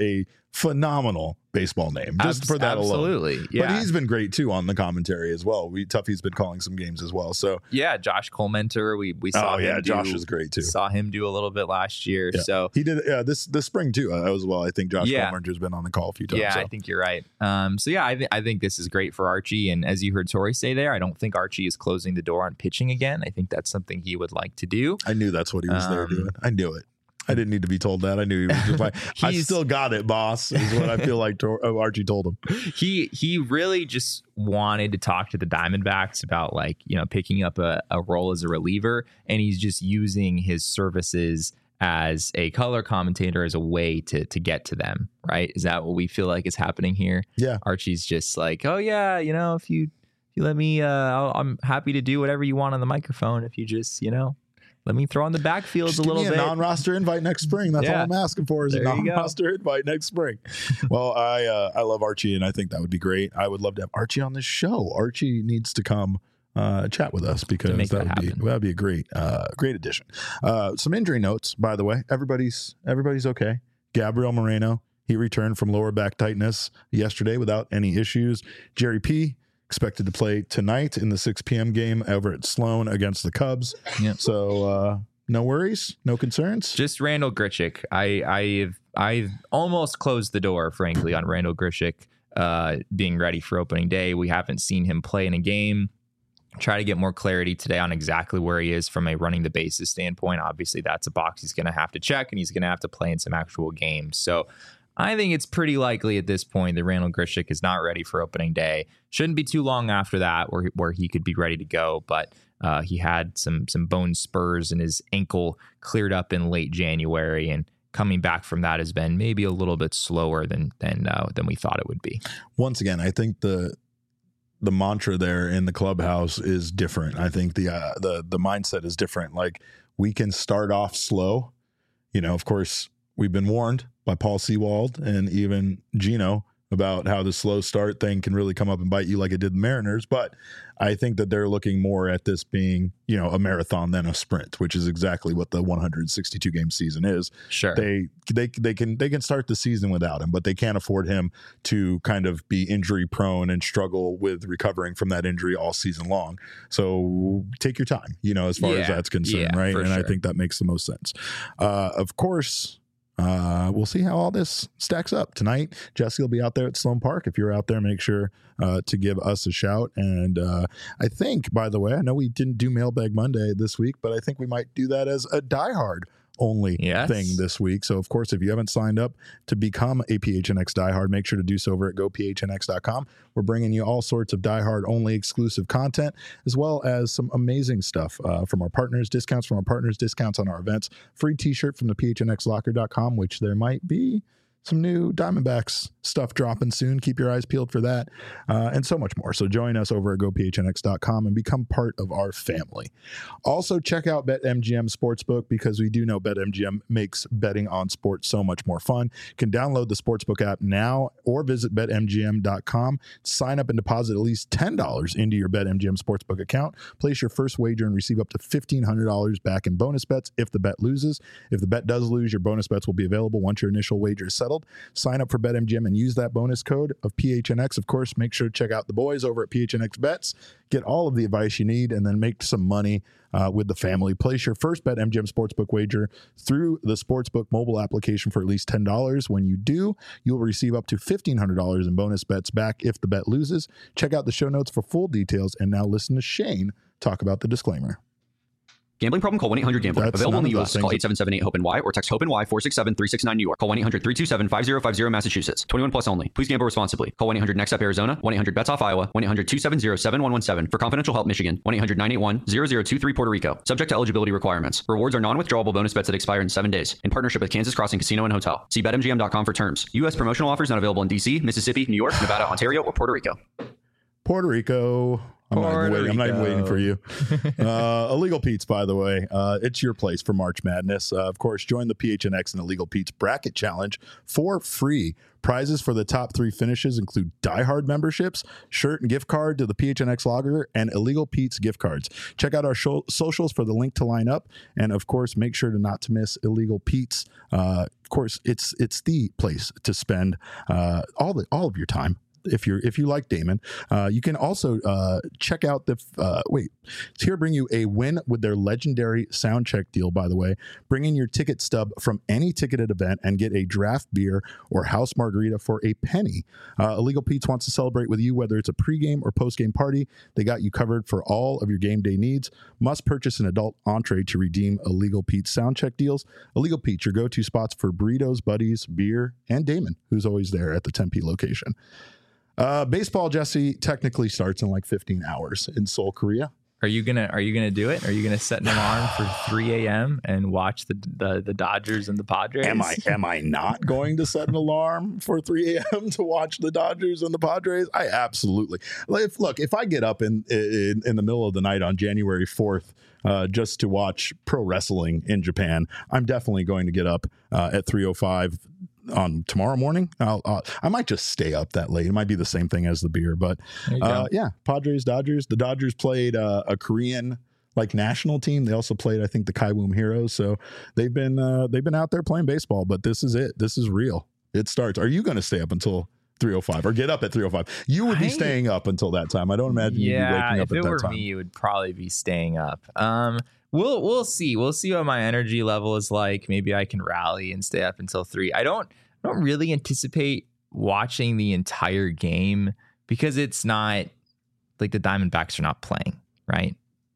phenomenal baseball name just Abs- for that absolutely. alone. Yeah. But he's been great too on the commentary as well. We Tuffy's been calling some games as well. So yeah, Josh Colementer, we we saw oh him yeah, do, Josh is great too. Saw him do a little bit last year. Yeah. So he did yeah this this spring too uh, as well. I think Josh Yeah. Colemanter's been on the call a few times. yeah, so. I think you're right. Um, so yeah, I, th- I think this is great for Archie. And as you heard Tori say there, I don't think Archie is closing the door on pitching again. I think that's something he would like to do. I knew that's what he was there Um, doing. I knew it. I didn't need to be told that. I knew he was just like, I He's- still got it, boss, is what I feel like Tor- oh, Archie told him. He he really just wanted to talk to the Diamondbacks about like, you know, picking up a, a role as a reliever. And he's just using his services as a color commentator as a way to to get to them. Right. Is that what we feel like is happening here? Yeah. Archie's just like, oh, yeah, you know, if you if you let me, uh, I'll, I'm happy to do whatever you want on the microphone. If you just, you know, let me throw on the backfields Just a give little me a bit. non-roster invite next spring. That's Yeah. all I'm asking for is There a you go. non-roster invite next spring. Well, I uh, I love Archie, and I think that would be great. I would love to have Archie on this show. Archie needs to come uh, chat with us because make that that would be happen. that would be a great uh, great addition. Uh, some injury notes, by the way. Everybody's everybody's okay. Gabriel Moreno, he returned from lower back tightness yesterday without any issues. Jerry P. expected to play tonight in the six p.m. game over at Sloan against the Cubs. Yeah. So uh, no worries, no concerns. Just Randall Grichuk. I I've I've almost closed the door, frankly, on Randall Grichuk uh, being ready for opening day. We haven't seen him play in a game. Try to get more clarity today on exactly where he is from a running the bases standpoint. Obviously, that's a box he's going to have to check, and he's going to have to play in some actual games. So I think it's pretty likely at this point that Randall Grichuk is not ready for opening day. Shouldn't be too long after that where where he could be ready to go, but uh, he had some some bone spurs and his ankle cleared up in late January, and coming back from that has been maybe a little bit slower than than uh, than we thought it would be. Once again, I think the the mantra there in the clubhouse is different. I think the uh, the the mindset is different. Like, we can start off slow. You know, of course, we've been warned by Paul Sewald and even Gino about how the slow start thing can really come up and bite you like it did the Mariners. But I think that they're looking more at this being, you know, a marathon than a sprint, which is exactly what the one hundred sixty-two game season is. Sure. They they they can they can start the season without him, but they can't afford him to kind of be injury prone and struggle with recovering from that injury all season long. So take your time, you know, as far as Yeah. that's concerned, Yeah, right? for And I sure. think that makes the most sense. Uh, of course. Uh, we'll see how all this stacks up tonight. Jesse will be out there at Sloan Park. If you're out there, make sure uh, to give us a shout. And uh, I think, by the way, I know we didn't do Mailbag Monday this week, but I think we might do that as a diehard only Yes. thing this week. So, of course, if you haven't signed up to become a P H N X diehard, make sure to do so over at go p h n x dot com. We're bringing you all sorts of diehard only exclusive content, as well as some amazing stuff uh, from our partners, discounts from our partners, discounts on our events, free t-shirt from the p h n x locker dot com, which there might be some new Diamondbacks stuff dropping soon. Keep your eyes peeled for that, uh, and so much more. So join us over at go p h n x dot com and become part of our family. Also, check out BetMGM Sportsbook, because we do know BetMGM makes betting on sports so much more fun. You can download the Sportsbook app now or visit bet m g m dot com. Sign up and deposit at least ten dollars into your BetMGM Sportsbook account. Place your first wager and receive up to fifteen hundred dollars back in bonus bets if the bet loses. If the bet does lose, your bonus bets will be available once your initial wager is settled. Sign up for BetMGM and use that bonus code of P H N X. Of course, make sure to check out the boys over at P H N X Bets. Get all of the advice you need and then make some money uh, with the family. Place your first BetMGM Sportsbook wager through the Sportsbook mobile application for at least ten dollars. When you do, you'll receive up to fifteen hundred dollars in bonus bets back if the bet loses. Check out the show notes for full details. And now listen to Shane talk about the disclaimer. Gambling problem? Call one eight hundred gambler. That's Available in the none of U S. those Call things. eight seven seven eight hope N Y or text hope N Y four six seven three six nine New York. Call one eight hundred three two seven five zero five zero Massachusetts. twenty-one plus only. Please gamble responsibly. Call one eight hundred next up Arizona. one eight hundred bets off Iowa. one eight hundred two seven zero seven one one seven for confidential help Michigan. one eight hundred nine eight one zero zero two three Puerto Rico. Subject to eligibility requirements. Rewards are non-withdrawable bonus bets that expire in seven days. In partnership with Kansas Crossing Casino and Hotel. See bet m g m dot com for terms. U S promotional offers not available in D C, Mississippi, New York, Nevada, Ontario, or Puerto Rico. Puerto Rico. I'm not, even waiting. I'm not even waiting for you. Uh, Illegal Pete's, by the way, uh, it's your place for March Madness. Uh, of course, join the P H N X and Illegal Pete's Bracket Challenge for free. Prizes for the top three finishes include diehard memberships, shirt and gift card to the P H N X Lager, and Illegal Pete's gift cards. Check out our show, socials for the link to line up, and of course, make sure to not to miss Illegal Pete's. Uh, of course, it's it's the place to spend uh, all the all of your time. If you're if you like Damon, uh, you can also uh, check out the uh, wait. It's here to bring you a win with their legendary sound check deal. By the way, bring in your ticket stub from any ticketed event and get a draft beer or house margarita for a penny. Uh, Illegal Pete's wants to celebrate with you, whether it's a pregame or postgame party. They got you covered for all of your game day needs. Must purchase an adult entree to redeem Illegal Pete's sound check deals. Illegal Pete's, your go-to spots for burritos, buddies, beer, and Damon, who's always there at the Tempe location. Uh, baseball, Jesse, technically starts in like fifteen hours in Seoul, Korea. Are you gonna Are you gonna do it? Are you gonna set an alarm for three a.m. and watch the, the the Dodgers and the Padres? Am I Am I not going to set an alarm for three a.m. to watch the Dodgers and the Padres? I absolutely. If, look, if I get up in, in in the middle of the night on January fourth uh, just to watch pro wrestling in Japan, I'm definitely going to get up uh, at three oh five. On tomorrow morning. I'll, uh, I might just stay up that late. It might be the same thing as the beer, but uh, yeah, Padres, Dodgers. The Dodgers played uh, a Korean like national team. They also played, I think, the Kaiwoom Heroes. So they've been uh, they've been out there playing baseball. But this is it. This is real. It starts. Are you going to stay up until three oh five or get up at three oh five? You would be I, staying up until that time. I don't imagine yeah, you'd be waking up at that time. If it were me, it would probably be staying up. Um, we'll we'll see. We'll see what my energy level is like. Maybe I can rally and stay up until three. I don't. I don't really anticipate watching the entire game because it's not like the Diamondbacks are not playing, right?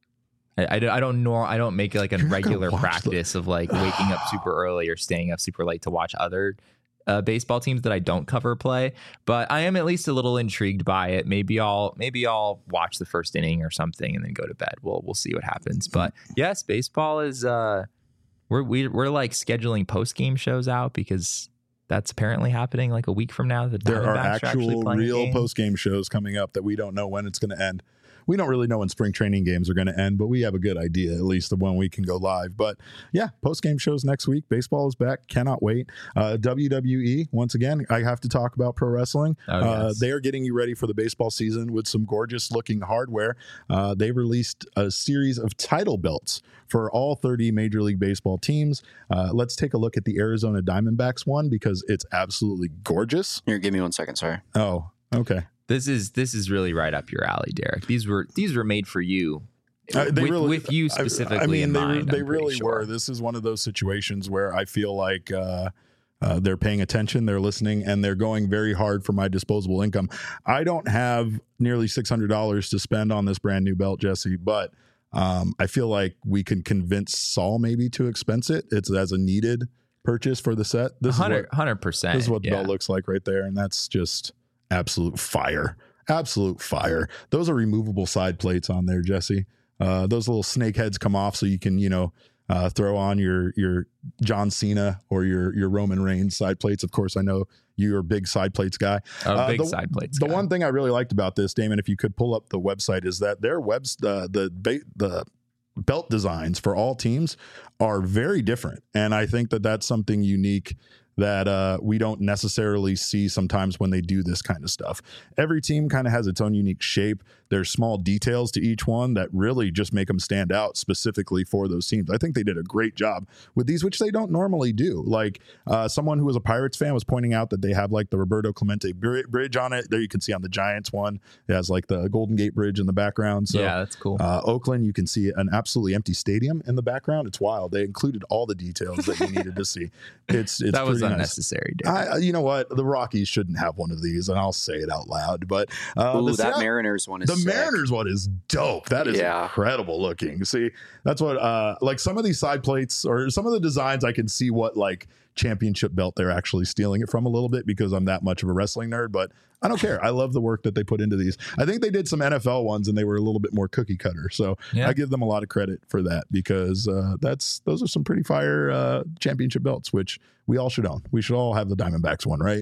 I, I, I don't know. I don't make it like a regular practice the- of like waking up super early or staying up super late to watch other uh, baseball teams that I don't cover play. But I am at least a little intrigued by it. Maybe I'll maybe I'll watch the first inning or something and then go to bed. We'll we'll see what happens. But yes, baseball is uh, we're we, we're like scheduling post game shows out because that's apparently happening like a week from now. The there are actual are real post-game shows coming up that we don't know when it's going to end. We don't really know when spring training games are going to end, but we have a good idea, at least of when we can go live. But yeah, post-game shows next week. Baseball is back. Cannot wait. Uh, W W E, once again, I have to talk about pro wrestling. Oh, yes. uh, they are getting you ready for the baseball season with some gorgeous looking hardware. Uh, they released a series of title belts for all thirty Major League Baseball teams. Uh, let's take a look at the Arizona Diamondbacks one because it's absolutely gorgeous. Here, give me one second. Sorry. Oh, okay. This is this is really right up your alley, Derek. These were these were made for you, uh, they with, really, with you specifically. I, I mean, in they, mind, they really sure. were. This is one of those situations where I feel like uh, uh, they're paying attention, they're listening, and they're going very hard for my disposable income. I don't have nearly six hundred dollars to spend on this brand new belt, Jesse, but um, I feel like we can convince Saul maybe to expense it. It's as a needed purchase for the set. This one hundred, is what, one hundred percent. This is what the yeah. belt looks like right there, and that's just absolute fire. Absolute fire. Those are removable side plates on there, Jesse. Uh, those little snake heads come off so you can, you know, uh, throw on your your John Cena or your your Roman Reigns side plates. Of course, I know you're a big side plates guy. A uh, big the, side plates The guy. one thing I really liked about this, Damon, if you could pull up the website, is that their webs uh, the ba- the belt designs for all teams are very different, and I think that that's something unique that uh, we don't necessarily see sometimes when they do this kind of stuff. Every team kind of has its own unique shape. There's small details to each one that really just make them stand out specifically for those teams. I think they did a great job with these, which they don't normally do. Like uh, someone who was a Pirates fan was pointing out that they have like the Roberto Clemente bridge on it. There you can see on the Giants one. It has like the Golden Gate Bridge in the background. So, yeah, that's cool. Uh, Oakland, you can see an absolutely empty stadium in the background. It's wild. They included all the details that you needed to see. It's it's that was nice. unnecessary. I, you know what? The Rockies shouldn't have one of these, and I'll say it out loud. But uh, Ooh, the that Seattle, Mariners one is the sick. Mariners one is dope. That is yeah. incredible looking. See, that's what uh, like some of these side plates or some of the designs. I can see what like championship belt they're actually stealing it from a little bit because I'm that much of a wrestling nerd. But I don't care. I love the work that they put into these. I think they did some N F L ones and they were a little bit more cookie cutter. So yeah. I give them a lot of credit for that because uh, that's those are some pretty fire uh, championship belts, which we all should own. We should all have the Diamondbacks one, right?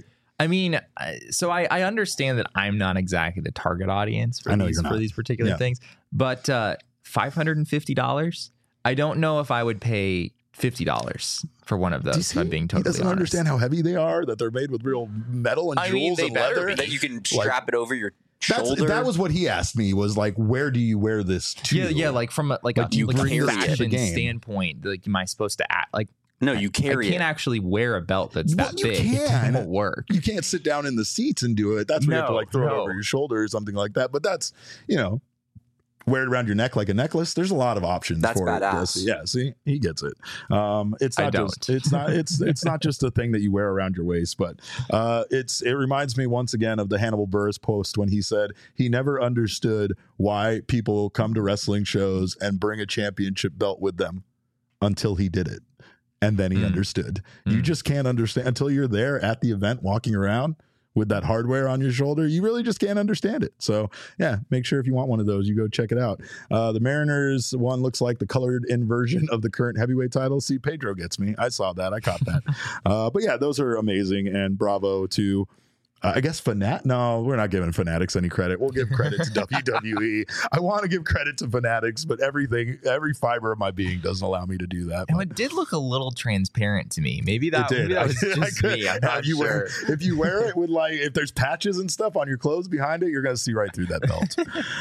I mean, so I, I understand that I'm not exactly the target audience for, I know these, you're not. for these particular Yeah. things, but uh, five hundred fifty dollars, I don't know if I would pay fifty dollars for one of Do you those, see? if I'm being He totally doesn't honest. understand how heavy they are, that they're made with real metal and I jewels mean, they and better leather. be. That you can strap it over your That's, shoulder. that was what he asked me, was like, where do you wear this to? Yeah, yeah, like from a, like, Like, a, you like a bring it to the fashion game. standpoint, like, am I supposed to act like no, you carry I can't it. actually wear a belt that's Well, that you big. can. It won't work. You can't sit down in the seats and do it. That's where you have to No, like throw it no. over your shoulder or something like that. But that's, you know, wear it around your neck like a necklace. There's a lot of options That's for badass. it. Yeah, see, he gets it. Um, it's I not don't. just it's not it's it's not just a thing that you wear around your waist, but uh, it's it reminds me once again of the Hannibal Buress post when he said he never understood why people come to wrestling shows and bring a championship belt with them until he did it. And then he Mm. understood. You Mm. just can't understand until you're there at the event walking around with that hardware on your shoulder. You really just can't understand it. So yeah, make sure if you want one of those, you go check it out. Uh, the Mariners one looks like the colored in version of the current heavyweight title. See, Pedro gets me. I saw that. I caught that. uh, but yeah, those are amazing. And bravo to Uh, I guess Fanat. No, we're not giving Fanatics any credit. We'll give credit to W W E. I want to give credit to Fanatics, but everything, every fiber of my being doesn't allow me to do that. And But it did look a little transparent to me. Maybe it that, did. maybe that was I- I just could- me. I'm yeah, not if you sure. wear, if you wear it with like, if there's patches and stuff on your clothes behind it, you're going to see right through that belt.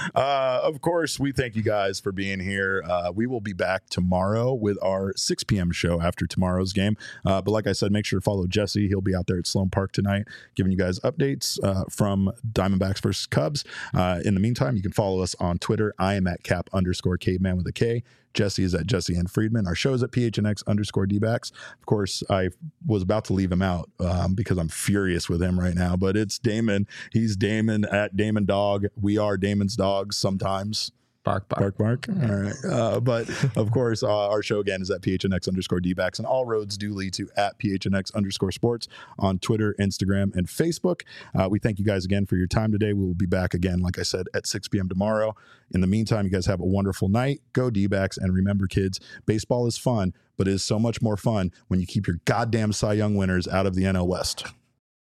uh, of course, we thank you guys for being here. Uh, we will be back tomorrow with our six p.m. show after tomorrow's game. Uh, but like I said, make sure to follow Jesse. He'll be out there at Sloan Park tonight, giving you guys updates uh, from Diamondbacks versus Cubs. Uh, in the meantime, you can follow us on Twitter. I am at cap underscore caveman with a K. Jesse is at Jesse N. Friedman. Our show is at P H N X underscore D-backs. Of course, I was about to leave him out um, because I'm furious with him right now, but it's Damon. He's Damon at Damon Dog. We are Damon's dogs sometimes. Bark, bark. Bark, bark. All right. Uh, but of course, uh, our show again is at P H N X underscore D-backs, and all roads do lead to at P H N X underscore sports on Twitter, Instagram, and Facebook. Uh, we thank you guys again for your time today. We will be back again, like I said, at six p.m. tomorrow. In the meantime, you guys have a wonderful night. Go D-backs. And remember, kids, baseball is fun, but it is so much more fun when you keep your goddamn Cy Young winners out of the N L West.